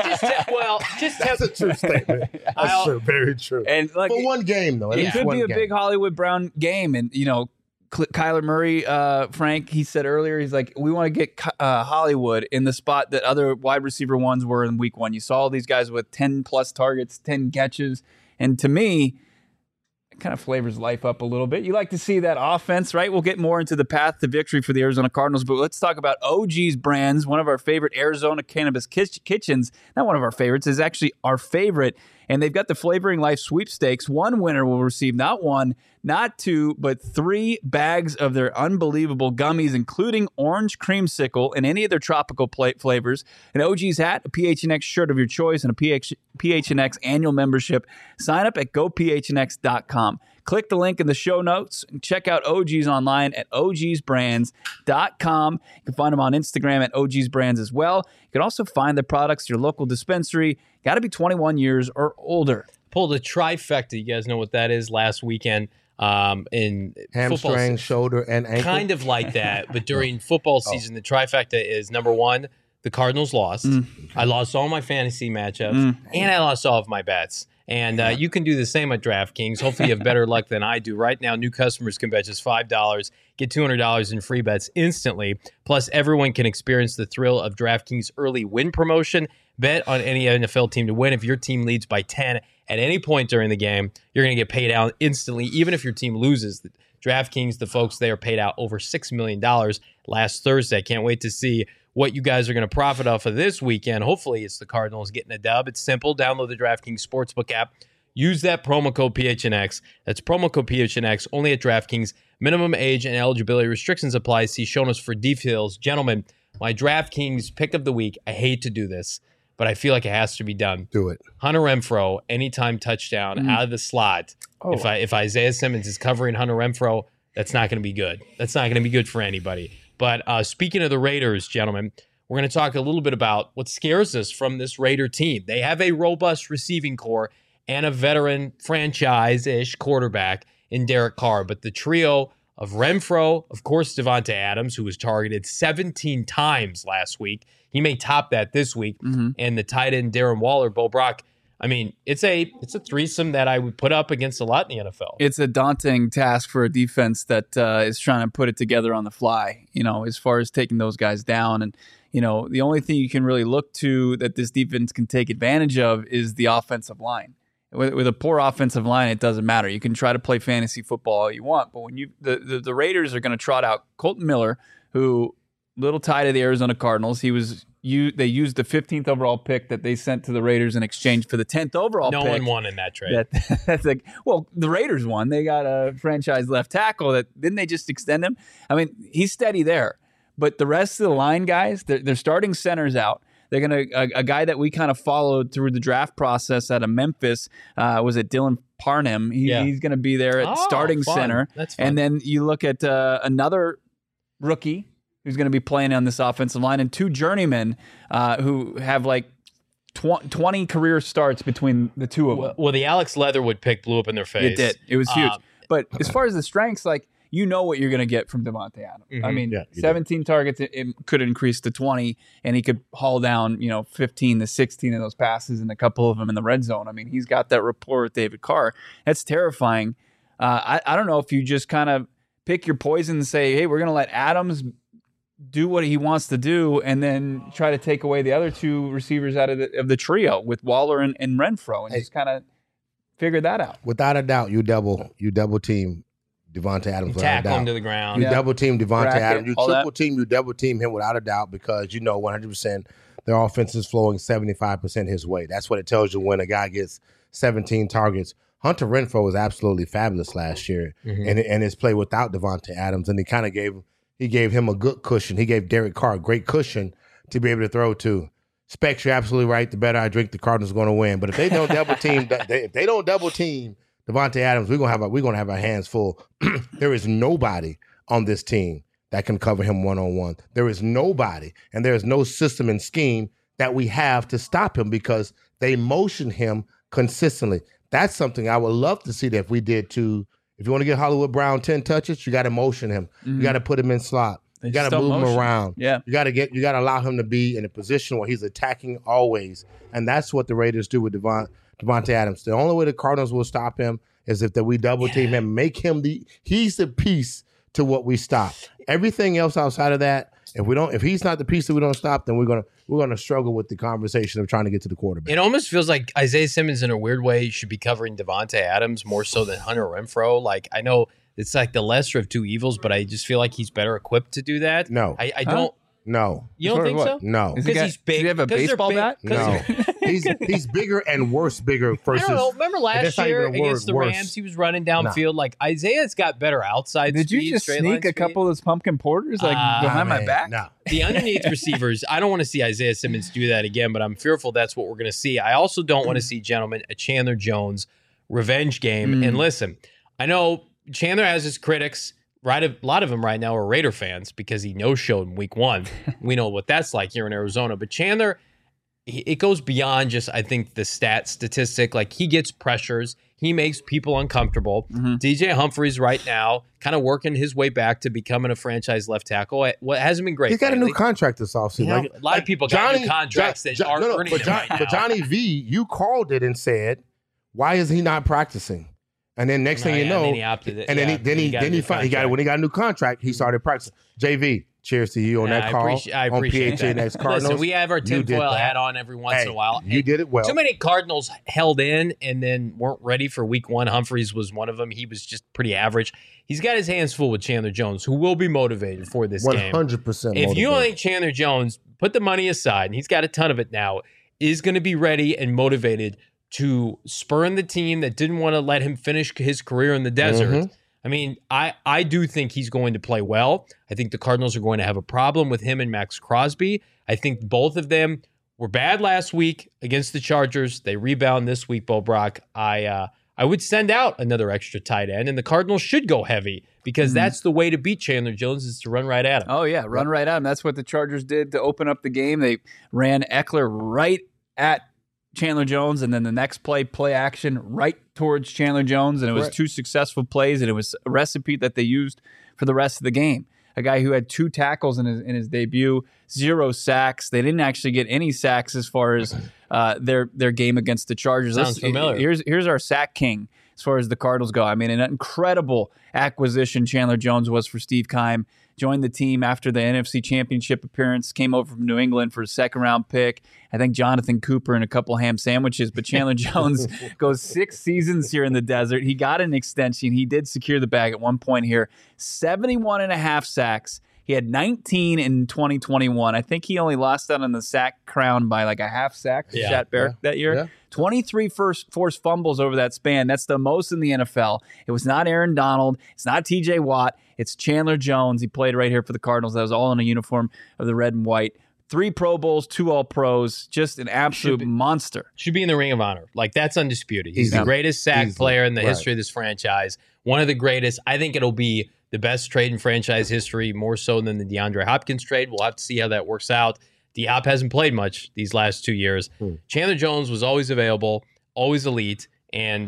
Speaker 6: That's a true statement. That's true, very true.
Speaker 4: And
Speaker 6: for one game though,
Speaker 4: it could be a big Hollywood Brown game, and Kyler Murray, Frank, he said earlier, he's like, we want to get Hollywood in the spot that other wide receiver ones were in week 1. You saw all these guys with 10 plus targets, 10 catches. And to me, it kind of flavors life up a little bit. You like to see that offense, right? We'll get more into the path to victory for the Arizona Cardinals, but let's talk about OG's Brands, one of our favorite Arizona cannabis kitchens. Not one of our favorites, is actually our favorite. And they've got the Flavoring Life sweepstakes. One winner will receive not 1, not 2, but 3 bags of their unbelievable gummies, including orange creamsicle and any of their tropical flavors, an OG's hat, a PHNX shirt of your choice, and a PHNX annual membership. Sign up at gophnx.com. Click the link in the show notes and check out OG's online at ogsbrands.com. You can find them on Instagram at ogsbrands as well. You can also find the products at your local dispensary. Got to be 21 years or older.
Speaker 5: Pulled a trifecta. You guys know what that is last weekend in
Speaker 6: hamstring, shoulder, and ankle.
Speaker 5: Kind of like that. But during football season, the trifecta is, number 1, the Cardinals lost. I lost all my fantasy matchups, and I lost all of my bets. And you can do the same at DraftKings. Hopefully you have better luck than I do. Right now, new customers can bet just $5, get $200 in free bets instantly. Plus, everyone can experience the thrill of DraftKings early win promotion. Bet on any NFL team to win. If your team leads by 10 at any point during the game, you're going to get paid out instantly, even if your team loses. DraftKings, the folks there, paid out over $6 million last Thursday. Can't wait to see what you guys are going to profit off of this weekend. Hopefully it's the Cardinals getting a dub. It's simple. Download the DraftKings Sportsbook app. Use that promo code PHNX. That's promo code PHNX only at DraftKings. Minimum age and eligibility restrictions apply. See show notes for details. Gentlemen, my DraftKings pick of the week. I hate to do this, but I feel like it has to be done.
Speaker 6: Do it.
Speaker 5: Hunter Renfrow, anytime touchdown out of the slot. Oh. If Isaiah Simmons is covering Hunter Renfrow, that's not going to be good. That's not going to be good for anybody. But speaking of the Raiders, gentlemen, we're going to talk a little bit about what scares us from this Raider team. They have a robust receiving core and a veteran franchise-ish quarterback in Derek Carr. But the trio of Renfrow, of course, Devontae Adams, who was targeted 17 times last week. He may top that this week. And the tight end Darren Waller, Bo Brock. I mean, it's a threesome that I would put up against a lot in the NFL.
Speaker 4: It's a daunting task for a defense that is trying to put it together on the fly, as far as taking those guys down. And, the only thing you can really look to that this defense can take advantage of is the offensive line. With a poor offensive line, it doesn't matter. You can try to play fantasy football all you want, but when the Raiders are going to trot out Colton Miller, who little tie to the Arizona Cardinals. They used the 15th overall pick that they sent to the Raiders in exchange for the 10th overall pick.
Speaker 5: No one won in that trade.
Speaker 4: That's like, well, the Raiders won. They got a franchise left tackle. Didn't they just extend him? I mean, he's steady there. But the rest of the line guys, their starting center's out. They're going to a guy that we kind of followed through the draft process out of Memphis. Was it Dylan Parham? He's going to be there at starting
Speaker 5: fun.
Speaker 4: center.
Speaker 5: That's fun.
Speaker 4: And then you look at another rookie who's going to be playing on this offensive line, and 2 journeymen who have like 20 career starts between the two of them.
Speaker 5: Well, the Alex Leatherwood pick blew up in their face.
Speaker 4: It did. It was huge. But as far as the strengths, like, you know what you're going to get from Devontae Adams. I mean, 17 targets, it could increase to 20, and he could haul down, 15 to 16 of those passes and a couple of them in the red zone. I mean, he's got that rapport with David Carr. That's terrifying. I don't know if you just kind of pick your poison and say, hey, we're going to let Adams do what he wants to do, and then try to take away the other 2 receivers out of the trio with Waller and Renfro, and just kind of figure that out.
Speaker 6: Without a doubt, you double team Devontae Adams.
Speaker 5: Tackle him to the ground.
Speaker 6: You double team Devontae
Speaker 4: Bracket,
Speaker 6: Adams. You
Speaker 4: all
Speaker 6: triple
Speaker 4: that.
Speaker 6: team. You double team him without a doubt, because 100% their offense is flowing 75% his way. That's what it tells you when a guy gets 17 targets. Hunter Renfro was absolutely fabulous last year, and his play without Devontae Adams, and he kind of gave him a good cushion. He gave Derek Carr a great cushion to be able to throw to. Specs, you're absolutely right. The better I drink, the Cardinals are going to win. But if they don't double team, if they don't double team Devontae Adams, we're gonna have our hands full. There is nobody on this team that can cover him one-on-one. There is nobody, and there is no system and scheme that we have to stop him, because they motion him consistently. That's something I would love to see that if we did too. If you want to get Hollywood Brown 10 touches, you got to motion him. You got to put him in slot. You got to move him around.
Speaker 4: Yeah.
Speaker 6: You got to allow him to be in a position where he's attacking always. And that's what the Raiders do with Devontae Adams. The only way the Cardinals will stop him is if we double team him, make him he's the piece to what we stop. Everything else outside of that, if he's not the piece that we don't stop, then we're gonna struggle with the conversation of trying to get to the quarterback.
Speaker 5: It almost feels like Isaiah Simmons, in a weird way, should be covering Devontae Adams more so than Hunter Renfro. Like, I know it's like the lesser of 2 evils, but I just feel like he's better equipped to do that.
Speaker 6: No.
Speaker 5: I don't.
Speaker 6: No.
Speaker 5: You don't think so?
Speaker 6: No.
Speaker 5: Because he's big.
Speaker 4: Does he have a
Speaker 5: 'cause they're
Speaker 4: baseball
Speaker 5: big-
Speaker 4: bat?
Speaker 5: 'cause
Speaker 6: No.
Speaker 5: they're-
Speaker 6: He's bigger and bigger
Speaker 5: I
Speaker 6: versus.
Speaker 5: don't know. Remember last
Speaker 6: that's not
Speaker 5: year
Speaker 6: even a word,
Speaker 5: against the
Speaker 6: worse.
Speaker 5: Rams, he was running downfield. Like, Isaiah's got better outside
Speaker 4: Did
Speaker 5: speed.
Speaker 4: you just
Speaker 5: straight
Speaker 4: sneak
Speaker 5: line
Speaker 4: a
Speaker 5: speed.
Speaker 4: couple of those pumpkin porters behind my back?
Speaker 6: No.
Speaker 5: The underneath receivers, I don't want to see Isaiah Simmons do that again, but I'm fearful that's what we're going to see. I also don't want to see, gentlemen, a Chandler Jones revenge game. And listen, I know Chandler has his critics. Right, a lot of them right now are Raider fans because he no-showed in week 1. We know what that's like here in Arizona. But Chandler, it goes beyond just, I think, the statistic. Like, he gets pressures. He makes people uncomfortable. DJ Humphries right now kind of working his way back to becoming a franchise left tackle. What hasn't been great.
Speaker 6: He's got a new
Speaker 5: lately.
Speaker 6: contract this offseason.
Speaker 5: You know, a lot of people got new contracts that aren't earning them right now.
Speaker 6: But Johnny V, you called it and said, why is he not practicing? And then next thing you know,
Speaker 5: then he opted it.
Speaker 6: and
Speaker 5: Yeah,
Speaker 6: then he when he got a new contract, he started practicing. JV, cheers to you on that call
Speaker 5: I appreciate
Speaker 6: on
Speaker 5: that.
Speaker 6: PHNX Cardinals.
Speaker 5: Listen, we have our
Speaker 6: You did
Speaker 5: tinfoil
Speaker 6: that.
Speaker 5: hat on every once in a while.
Speaker 6: You did it well.
Speaker 5: Too many Cardinals held in and then weren't ready for week 1. Humphries was one of them. He was just pretty average. He's got his hands full with Chandler Jones, who will be motivated for this game.
Speaker 6: 100%.
Speaker 5: If you don't think Chandler Jones, put the money aside, and he's got a ton of it now, is going to be ready and motivated to spurn the team that didn't want to let him finish his career in the desert. I mean, I do think he's going to play well. I think the Cardinals are going to have a problem with him and Max Crosby. I think both of them were bad last week against the Chargers. They rebound this week, Bo Brock. I would send out another extra tight end, and the Cardinals should go heavy because that's the way to beat Chandler Jones is to run right at him.
Speaker 4: Oh, yeah, run right at him. That's what the Chargers did to open up the game. They ran Eckler right at Chandler Jones, and then the next play action right towards Chandler Jones, and it was 2 successful plays, and it was a recipe that they used for the rest of the game. A guy who had 2 tackles in his debut, 0 sacks. They didn't actually get any sacks as far as their game against the Chargers.
Speaker 5: Sounds familiar.
Speaker 4: Here's our sack king as far as the Cardinals go. I mean, an incredible acquisition Chandler Jones was for Steve Keim. Joined the team after the NFC Championship appearance, came over from New England for a second-round pick. I think Jonathan Cooper and a couple ham sandwiches, but Chandler Jones goes 6 seasons here in the desert. He got an extension. He did secure the bag at one point here. 71.5 sacks. He had 19 in 2021. I think he only lost out on the sack crown by like a half sack to Shat Barrett that year.
Speaker 6: Yeah.
Speaker 4: 23 forced fumbles over that span. That's the most in the NFL. It was not Aaron Donald. It's not TJ Watt. It's Chandler Jones. He played right here for the Cardinals. That was all in a uniform of the red and white. 3 Pro Bowls, 2 All-Pros, just an absolute monster.
Speaker 5: Should be in the Ring of Honor. Like, that's undisputed. He's
Speaker 6: Easily.
Speaker 5: the greatest sack
Speaker 6: Easily.
Speaker 5: player in the
Speaker 6: Right.
Speaker 5: history of this franchise. One of the greatest. I think it'll be the best trade in franchise history, more so than the DeAndre Hopkins trade. We'll have to see how that works out. D-Hop hasn't played much these last 2 years. Chandler Jones was always available, always elite. And,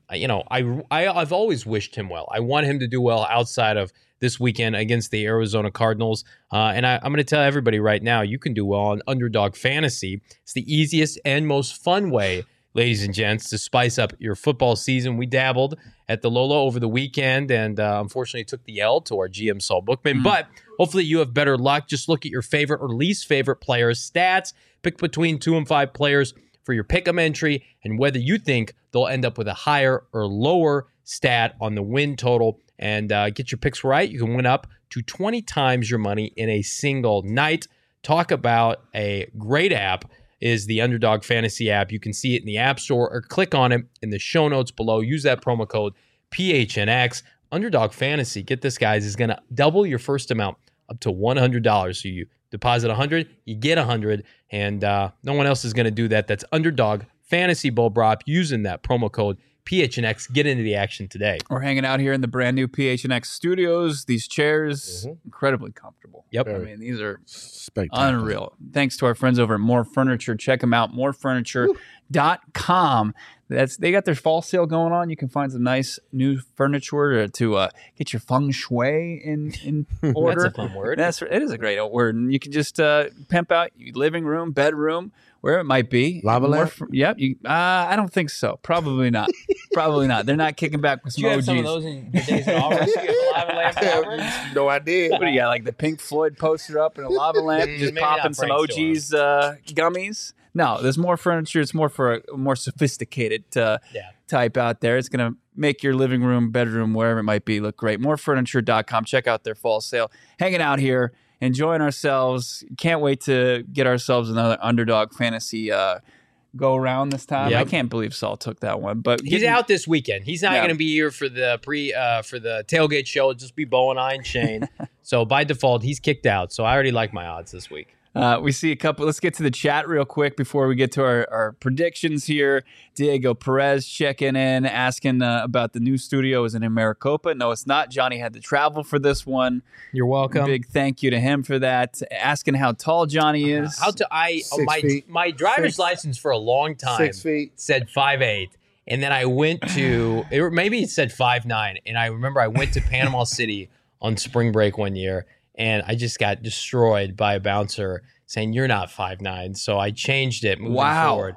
Speaker 5: I've always wished him well. I want him to do well outside of this weekend against the Arizona Cardinals. And I'm going to tell everybody right now, you can do well on Underdog Fantasy. It's the easiest and most fun way, ladies and gents, to spice up your football season. We dabbled at the Lola over the weekend and unfortunately took the L to our GM Saul Bookman. But hopefully you have better luck. Just look at your favorite or least favorite players' stats. Pick between 2 and 5 players for your pick'em entry and whether you think they'll end up with a higher or lower stat on the win total. And get your picks right. You can win up to 20 times your money in a single night. Talk about a great app is the Underdog Fantasy app. You can see it in the App Store or click on it in the show notes below. Use that promo code PHNX. Underdog Fantasy, get this, guys, is going to double your first amount up to $100. So you deposit $100, you get $100, and no one else is going to do that. That's Underdog Fantasy Bull Brop using that promo code PHNX. Get into the action today.
Speaker 4: We're hanging out here in the brand new PHNX studios. These chairs, incredibly comfortable.
Speaker 5: Yep.
Speaker 4: I mean, these are
Speaker 6: Spectacular.
Speaker 4: unreal. Thanks to our friends over at More Furniture. Check them out, morefurniture.com. They got their fall sale going on. You can find some nice new furniture to get your feng shui in order.
Speaker 5: That's a fun word.
Speaker 4: It is a great word. And you can just pimp out your living room, bedroom, wherever it might be.
Speaker 6: Lava lamp?
Speaker 4: Yep. I don't think so. Probably not. Probably not. They're not kicking back with some
Speaker 5: Do you have
Speaker 4: OGs.
Speaker 5: some of those in your days at Auburn? You have a lava lamp at Auburn?
Speaker 6: No idea.
Speaker 4: What do you got? Like the Pink Floyd poster up and a lava lamp, just
Speaker 5: Maybe
Speaker 4: popping
Speaker 5: not
Speaker 4: some
Speaker 5: Frank's
Speaker 4: OG's gummies. No, there's more furniture. It's more for a more sophisticated type out there. It's going to make your living room, bedroom, wherever it might be, look great. Morefurniture.com. Check out their fall sale. Hanging out here, enjoying ourselves. Can't wait to get ourselves another Underdog Fantasy go around this time.
Speaker 5: Yep.
Speaker 4: I can't believe Saul took that one, but
Speaker 5: He's out this weekend. He's not
Speaker 4: Yeah.
Speaker 5: going to be here for the for the tailgate show. It'll just be Bo and I and Shane. So by default, he's kicked out. So I already like my odds this week.
Speaker 4: We see a couple. Let's get to the chat real quick before we get to our predictions here. Diego Perez checking in, asking about the new studio. Is it in Maricopa? No, it's not. Johnny had to travel for this one.
Speaker 5: You're welcome.
Speaker 4: Big thank you to him for that. Asking how tall Johnny is.
Speaker 6: Six feet.
Speaker 5: My driver's license for a long time
Speaker 6: 6 feet.
Speaker 5: said 5'8", and then I went to maybe it said 5'9", and I remember I went to Panama City on spring break one year. And I just got destroyed by a bouncer saying, "You're not 5'9". So I changed it moving forward.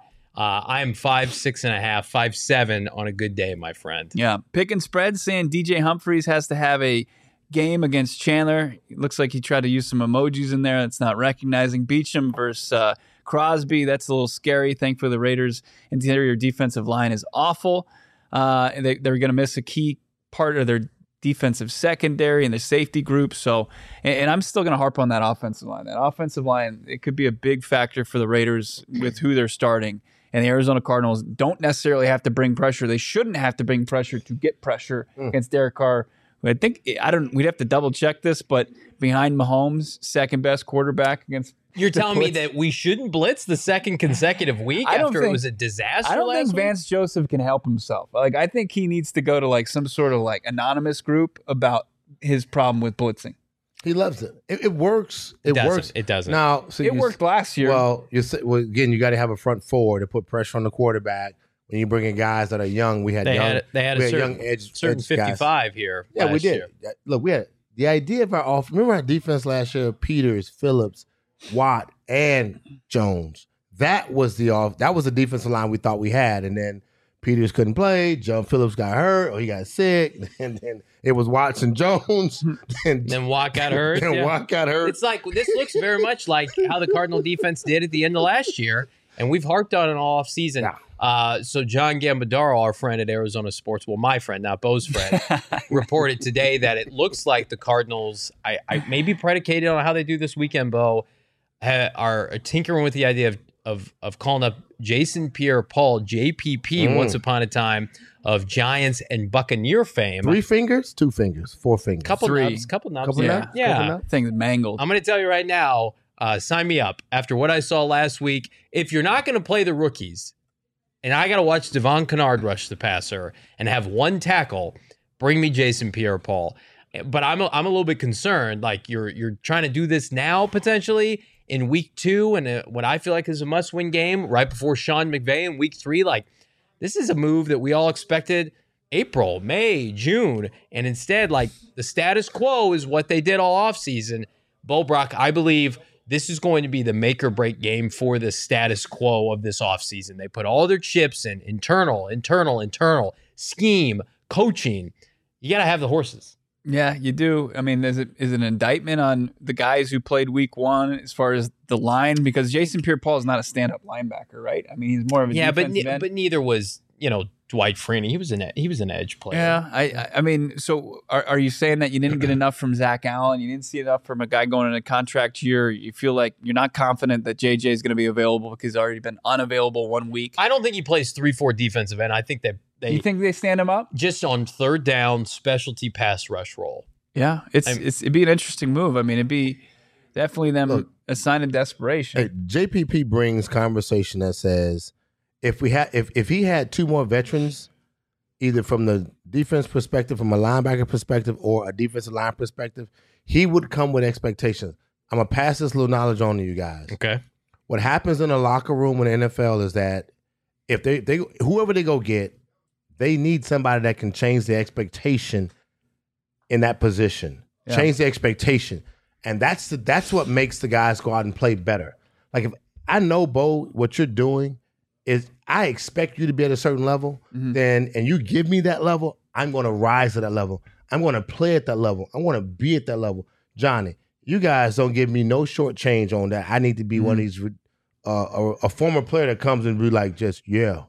Speaker 5: I am 5'6.5", 5'7" on a good day, my friend.
Speaker 4: Yeah. Pick and spread saying DJ Humphries has to have a game against Chandler. It looks like he tried to use some emojis in there. That's not recognizing. Beecham versus Crosby. That's a little scary. Thankfully, the Raiders' interior defensive line is awful. They're going to miss a key part of their defensive secondary and the safety group. So, and I'm still going to harp on that offensive line. That offensive line, it could be a big factor for the Raiders with who they're starting. And the Arizona Cardinals don't necessarily have to bring pressure. They shouldn't have to bring pressure to get pressure against Derek Carr. We'd have to double check this, but behind Mahomes, second best quarterback against.
Speaker 5: You're telling me that we shouldn't blitz the second consecutive week after it was a disaster?
Speaker 4: I don't think
Speaker 5: last week?
Speaker 4: Vance Joseph can help himself. Like, I think he needs to go to like some sort of like anonymous group about his problem with blitzing.
Speaker 6: He loves it. It works. It
Speaker 5: doesn't.
Speaker 6: works.
Speaker 5: It doesn't.
Speaker 6: Now, so
Speaker 4: It worked last year.
Speaker 6: Well, again, you got to have a front four to put pressure on the quarterback. When you bring in guys that are young, we had
Speaker 5: They
Speaker 6: young.
Speaker 5: had
Speaker 6: we
Speaker 5: a
Speaker 6: had
Speaker 5: certain,
Speaker 6: young edge
Speaker 5: certain
Speaker 6: edge guys.
Speaker 5: 55 here.
Speaker 6: Yeah, we
Speaker 5: last
Speaker 6: did.
Speaker 5: year.
Speaker 6: Look, we had the idea of our off. Remember our defense last year: Peters, Phillips, Watt, and Jones. That was the defensive line we thought we had, and then Peters couldn't play. John Phillips got hurt, or he got sick, and then it was Watson Jones, and
Speaker 5: Then Watt got hurt.
Speaker 6: then
Speaker 5: yeah.
Speaker 6: Watt got hurt.
Speaker 5: It's like this looks very much like how the Cardinal defense did at the end of last year, and we've harped on it all off season. So John Gambadaro, our friend at Arizona Sports, well, my friend, not Bo's friend, reported today that it looks like the Cardinals, I maybe predicated on how they do this weekend, Bo, are tinkering with the idea of calling up Jason Pierre-Paul, JPP, once upon a time, of Giants and Buccaneer fame.
Speaker 6: 3 fingers, 2 fingers, 4 fingers.
Speaker 5: Couple
Speaker 4: Three.
Speaker 5: nubs, couple nubs.
Speaker 6: Couple
Speaker 5: yeah.
Speaker 6: nubs?
Speaker 5: Yeah.
Speaker 6: Couple nubs?
Speaker 4: Thing's mangled.
Speaker 5: I'm going to tell you right now, Sign me up. After what I saw last week, if you're not going to play the rookies, and I got to watch Devon Kennard rush the passer and have one tackle, bring me Jason Pierre-Paul. But I'm a little bit concerned. Like you're trying to do this now potentially in week 2 and what I feel like is a must-win game right before Sean McVay in week 3. Like this is a move that we all expected April, May, June, and instead like the status quo is what they did all offseason. Bo Brock, I believe this is going to be the make or break game for the status quo of this offseason. They put all their chips in internal, scheme, coaching. You got to have the horses.
Speaker 4: Yeah, you do. I mean, is it an indictment on the guys who played week 1 as far as the line? Because Jason Pierre-Paul is not a stand-up linebacker, right? I mean, he's more of a defensive end.
Speaker 5: But neither was, Dwight Freeney. He was an edge player.
Speaker 4: Yeah, I mean, so are you saying that you didn't get enough from Zach Allen? You didn't see enough from a guy going in a contract year? You feel like you're not confident that JJ is going to be available because he's already been unavailable 1 week?
Speaker 5: I don't think he plays 3-4 defensive end. I think that
Speaker 4: you think they stand him up?
Speaker 5: Just on third down, specialty pass rush role.
Speaker 4: Yeah, it'd be an interesting move. I mean, it'd be definitely them a sign of desperation.
Speaker 6: Hey, JPP brings conversation that says if he had 2 more veterans, either from the defense perspective, from a linebacker perspective, or a defensive line perspective, he would come with expectations. I'm gonna pass this little knowledge on to you guys.
Speaker 5: Okay.
Speaker 6: What happens in the locker room in the NFL is that if they whoever they go get, they need somebody that can change the expectation in that position. Yeah. Change the expectation. And that's what makes the guys go out and play better. Like if I know, Bo, what you're doing is I expect you to be at a certain level, and you give me that level, I'm going to rise to that level. I'm going to play at that level. I want to be at that level. Johnny, you guys don't give me no short change on that. I need to be one of these a former player that comes and be like, just, yeah.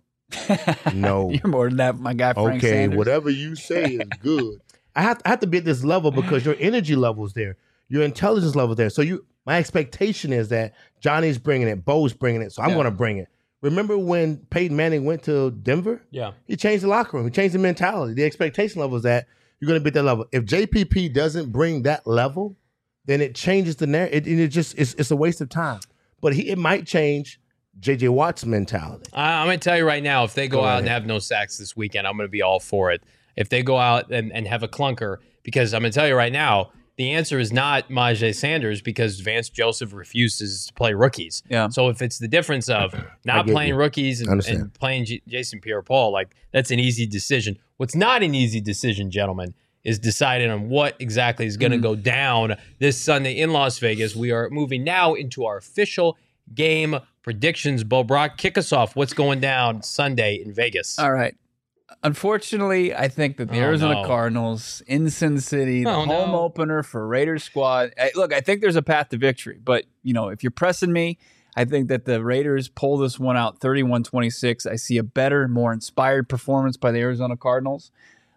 Speaker 6: No.
Speaker 4: You're more than that, my guy, Frank
Speaker 6: Okay,
Speaker 4: Sanders.
Speaker 6: Whatever you say is good. I have to be at this level because your energy level is there. Your intelligence level is there. So my expectation is that Johnny's bringing it, Bo's bringing it, so I'm going to bring it. Remember when Peyton Manning went to Denver? Yeah. He changed the locker room. He changed the mentality. The expectation level is that you're going to be at that level. If JPP doesn't bring that level, then it changes the narrative. It's a waste of time. But it might change J.J. Watt's mentality.
Speaker 5: I'm going to tell you right now, if they go out and have no sacks this weekend, I'm going to be all for it. If they go out and have a clunker, because I'm going to tell you right now, the answer is not Myjai Sanders because Vance Joseph refuses to play rookies. Yeah. So if it's the difference of not playing rookies and playing Jason Pierre-Paul, like that's an easy decision. What's not an easy decision, gentlemen, is deciding on what exactly is going to go down this Sunday in Las Vegas. We are moving now into our official game predictions. Bo Brock, kick us off. What's going down Sunday in Vegas?
Speaker 4: All right. Unfortunately, I think that the Arizona Cardinals in Sin City, the home opener for Raiders squad. Look, I think there's a path to victory, but if you're pressing me, I think that the Raiders pull this one out 31-26. I see a better, more inspired performance by the Arizona Cardinals.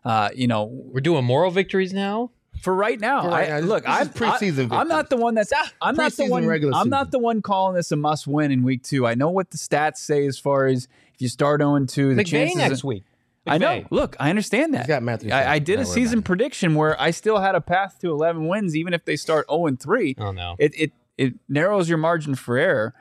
Speaker 5: We're doing moral victories now.
Speaker 4: For right now, I'm
Speaker 6: preseason.
Speaker 4: I'm not the one I'm not the one calling this a must win in week 2. I know what the stats say as far as if you start 0-2, the chances
Speaker 5: next week.
Speaker 4: I know. Look, I understand that.
Speaker 6: He's got Matthew.
Speaker 4: I did a season prediction where I still had a path to 11 wins, even if they start 0-3.
Speaker 5: Oh no!
Speaker 4: It narrows your margin for error.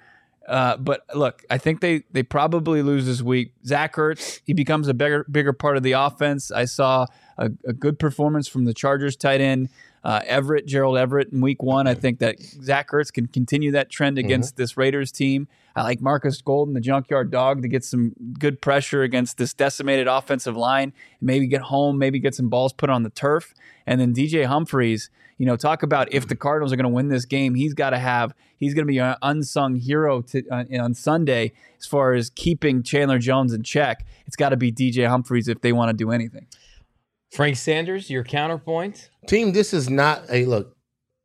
Speaker 4: But look, I think they probably lose this week. Zach Ertz, he becomes a bigger part of the offense. I saw a good performance from the Chargers tight end Gerald Everett in week 1. I think that Zach Ertz can continue that trend against this Raiders team. I like Marcus Golden, the junkyard dog, to get some good pressure against this decimated offensive line and maybe get home, maybe get some balls put on the turf. And then DJ Humphries, talk about if the Cardinals are going to win this game, he's going to be an unsung hero on Sunday as far as keeping Chandler Jones in check. It's got to be DJ Humphries if they want to do anything.
Speaker 5: Frank Sanders, your counterpoint?
Speaker 6: Team, this is not look,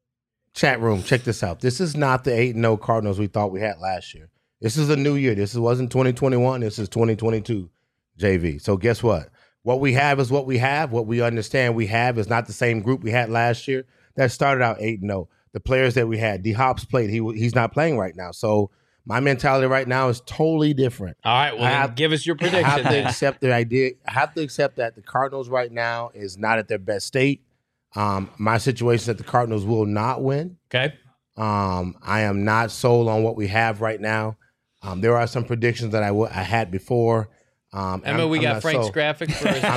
Speaker 6: chat room, check this out. This is not the 8-0 Cardinals we thought we had last year. This is a new year. This wasn't 2021. This is 2022, JV. So guess what? What we have is what we have. What we understand we have is not the same group we had last year. That started out 8-0. The players that we had, D-Hop's played. He's not playing right now. So my mentality right now is totally different.
Speaker 5: All right, well, give us your prediction.
Speaker 6: I have to accept the idea. I have to accept that the Cardinals right now is not at their best state. My situation is that the Cardinals will not win.
Speaker 5: Okay.
Speaker 6: I am not sold on what we have right now. There are some predictions that I had before.
Speaker 5: Emma, we got Frank's graphic for us.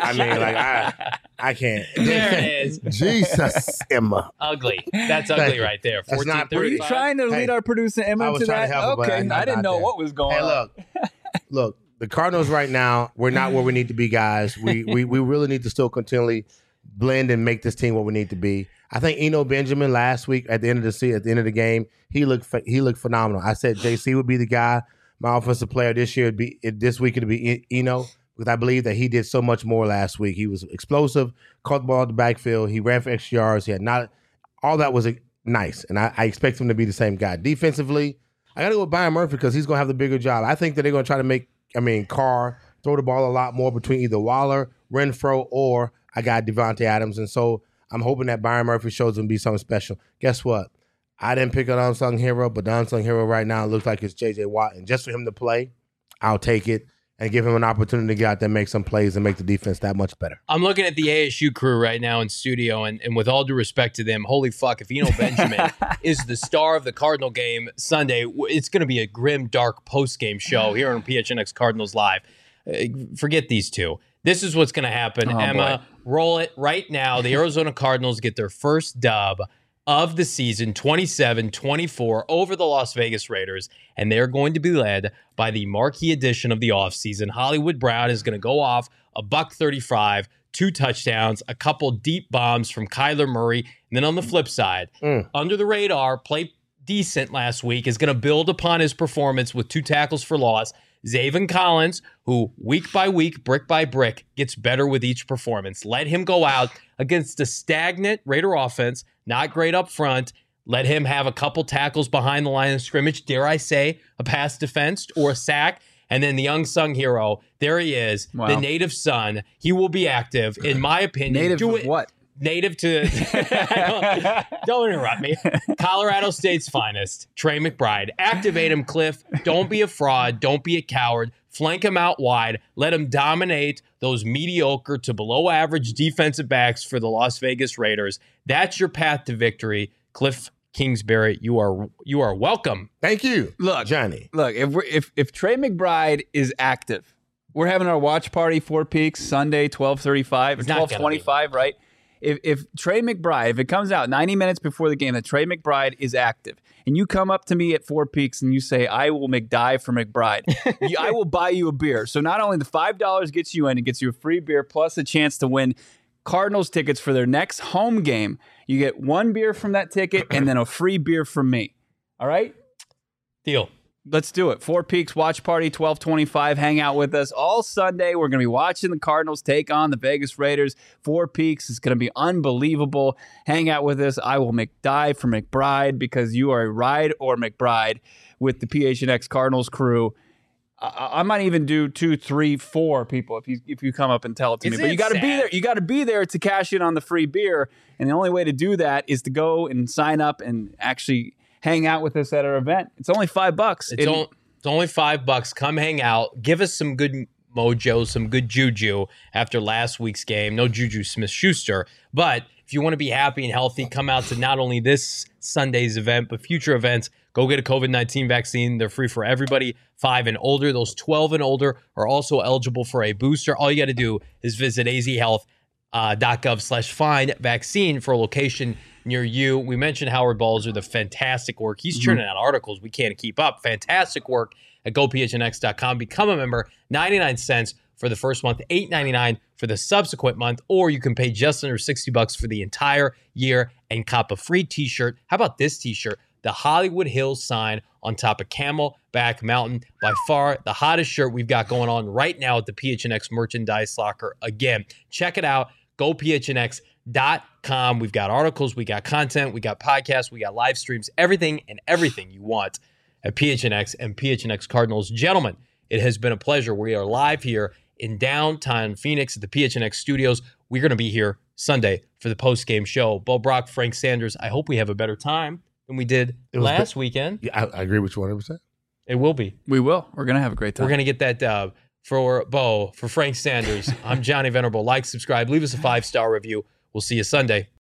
Speaker 6: I can't.
Speaker 5: There it is.
Speaker 6: Jesus, Emma.
Speaker 5: Ugly. That's ugly right there.
Speaker 6: That's not
Speaker 5: 14:35.
Speaker 4: Were you trying to lead our producer Emma
Speaker 6: I was
Speaker 4: to
Speaker 6: trying
Speaker 4: that?
Speaker 6: to help her, but
Speaker 4: Okay, I didn't know what was going on.
Speaker 6: Look, the Cardinals right now, we're not where we need to be, guys. We really need to still continually blend and make this team what we need to be. I think Eno Benjamin last week at the end of the game, he looked phenomenal. I said JC would be the guy. My offensive player this week it'd be Eno, because I believe that he did so much more last week. He was explosive, caught the ball at the backfield, he ran for extra yards. He had not all that was nice, and I expect him to be the same guy. Defensively, I got to go with Byron Murphy because he's going to have the bigger job. I think that they're going to try to make Carr throw the ball a lot more between either Waller, Renfro, or I got Devontae Adams, and so I'm hoping that Byron Murphy shows him to be something special. Guess what? I didn't pick an unsung hero, but the unsung hero right now looks like it's J.J. Watt. And just for him to play, I'll take it and give him an opportunity to get out there and make some plays and make the defense that much better.
Speaker 5: I'm looking at the ASU crew right now in studio, and with all due respect to them, holy fuck, if Eno Benjamin is the star of the Cardinal game Sunday, it's going to be a grim, dark post-game show here on PHNX Cardinals Live. Forget these two. This is what's going to happen. Emma, roll it right now. The Arizona Cardinals get their first dub of the season, 27-24 over the Las Vegas Raiders, and they're going to be led by the marquee addition of the offseason. Hollywood Brown is going to go off a $135, 2 touchdowns, a couple deep bombs from Kyler Murray, and then on the flip side, under the radar, played decent last week, is going to build upon his performance with 2 tackles for loss. Zaven Collins, who week by week, brick by brick, gets better with each performance. Let him go out against a stagnant Raider offense, not great up front. Let him have a couple tackles behind the line of scrimmage, dare I say, a pass defense or a sack. And then the unsung hero, there he is, the native son. He will be active, in my opinion.
Speaker 4: Native of what?
Speaker 5: Native to, don't interrupt me. Colorado State's finest, Trey McBride. Activate him, Cliff. Don't be a fraud. Don't be a coward. Flank him out wide. Let him dominate those mediocre to below average defensive backs for the Las Vegas Raiders. That's your path to victory. Cliff Kingsbury, you are welcome.
Speaker 6: Thank you.
Speaker 4: Look,
Speaker 6: Johnny.
Speaker 4: Look, if Trey McBride is active, we're having our watch party, Four Peaks, Sunday, 12:35 or 12:25, right? If Trey McBride, if it comes out 90 minutes before the game that Trey McBride is active, and you come up to me at Four Peaks and you say, I will McDive for McBride, I will buy you a beer. So not only the $5 gets you in, it gets you a free beer plus a chance to win Cardinals tickets for their next home game. You get 1 beer from that ticket and then a free beer from me. All right?
Speaker 5: Deal.
Speaker 4: Let's do it. Four Peaks Watch Party, 12:25. Hang out with us all Sunday. We're going to be watching the Cardinals take on the Vegas Raiders. Four Peaks is going to be unbelievable. Hang out with us. I will McDive for McBride because you are a ride or McBride with the PHNX Cardinals crew. I might even do 2, 3, 4 people if you come up and tell it to me. But you got to be there. You got to be there to cash in on the free beer. And the only way to do that is to go and sign up and actually hang out with us at our event. It's only $5.
Speaker 5: It's only $5. Come hang out. Give us some good mojo, some good juju after last week's game. No Juju Smith-Schuster. But if you want to be happy and healthy, come out to not only this Sunday's event, but future events. Go get a COVID-19 vaccine. They're free for everybody 5 and older. Those 12 and older are also eligible for a booster. All you got to do is visit azhealth.gov/find vaccine for a location near you. We mentioned Howard Balzer, the fantastic work. He's churning out articles we can't keep up. Fantastic work at gophnx.com. Become a member, 99 cents for the first month, $8.99 for the subsequent month, or you can pay just under $60 for the entire year and cop a free t-shirt. How about this t-shirt? The Hollywood Hills sign on top of Camelback Mountain. By far the hottest shirt we've got going on right now at the PHNX merchandise locker. Again, check it out. gophnx.com. We've got articles, we got content, we got podcasts, we got live streams, everything you want at PHNX and PHNX Cardinals. Gentlemen, it has been a pleasure. We are live here in downtown Phoenix at the PHNX studios. We're going to be here Sunday for the post-game show. Bo Brock, Frank Sanders, I hope we have a better time than we did last weekend.
Speaker 6: Yeah, I agree with you 100%.
Speaker 5: It will be.
Speaker 4: We will. We're going to have a great time.
Speaker 5: We're going to get that dub. For Bo, for Frank Sanders, I'm Johnny Venerable. Like, subscribe, leave us a 5-star review. We'll see you Sunday.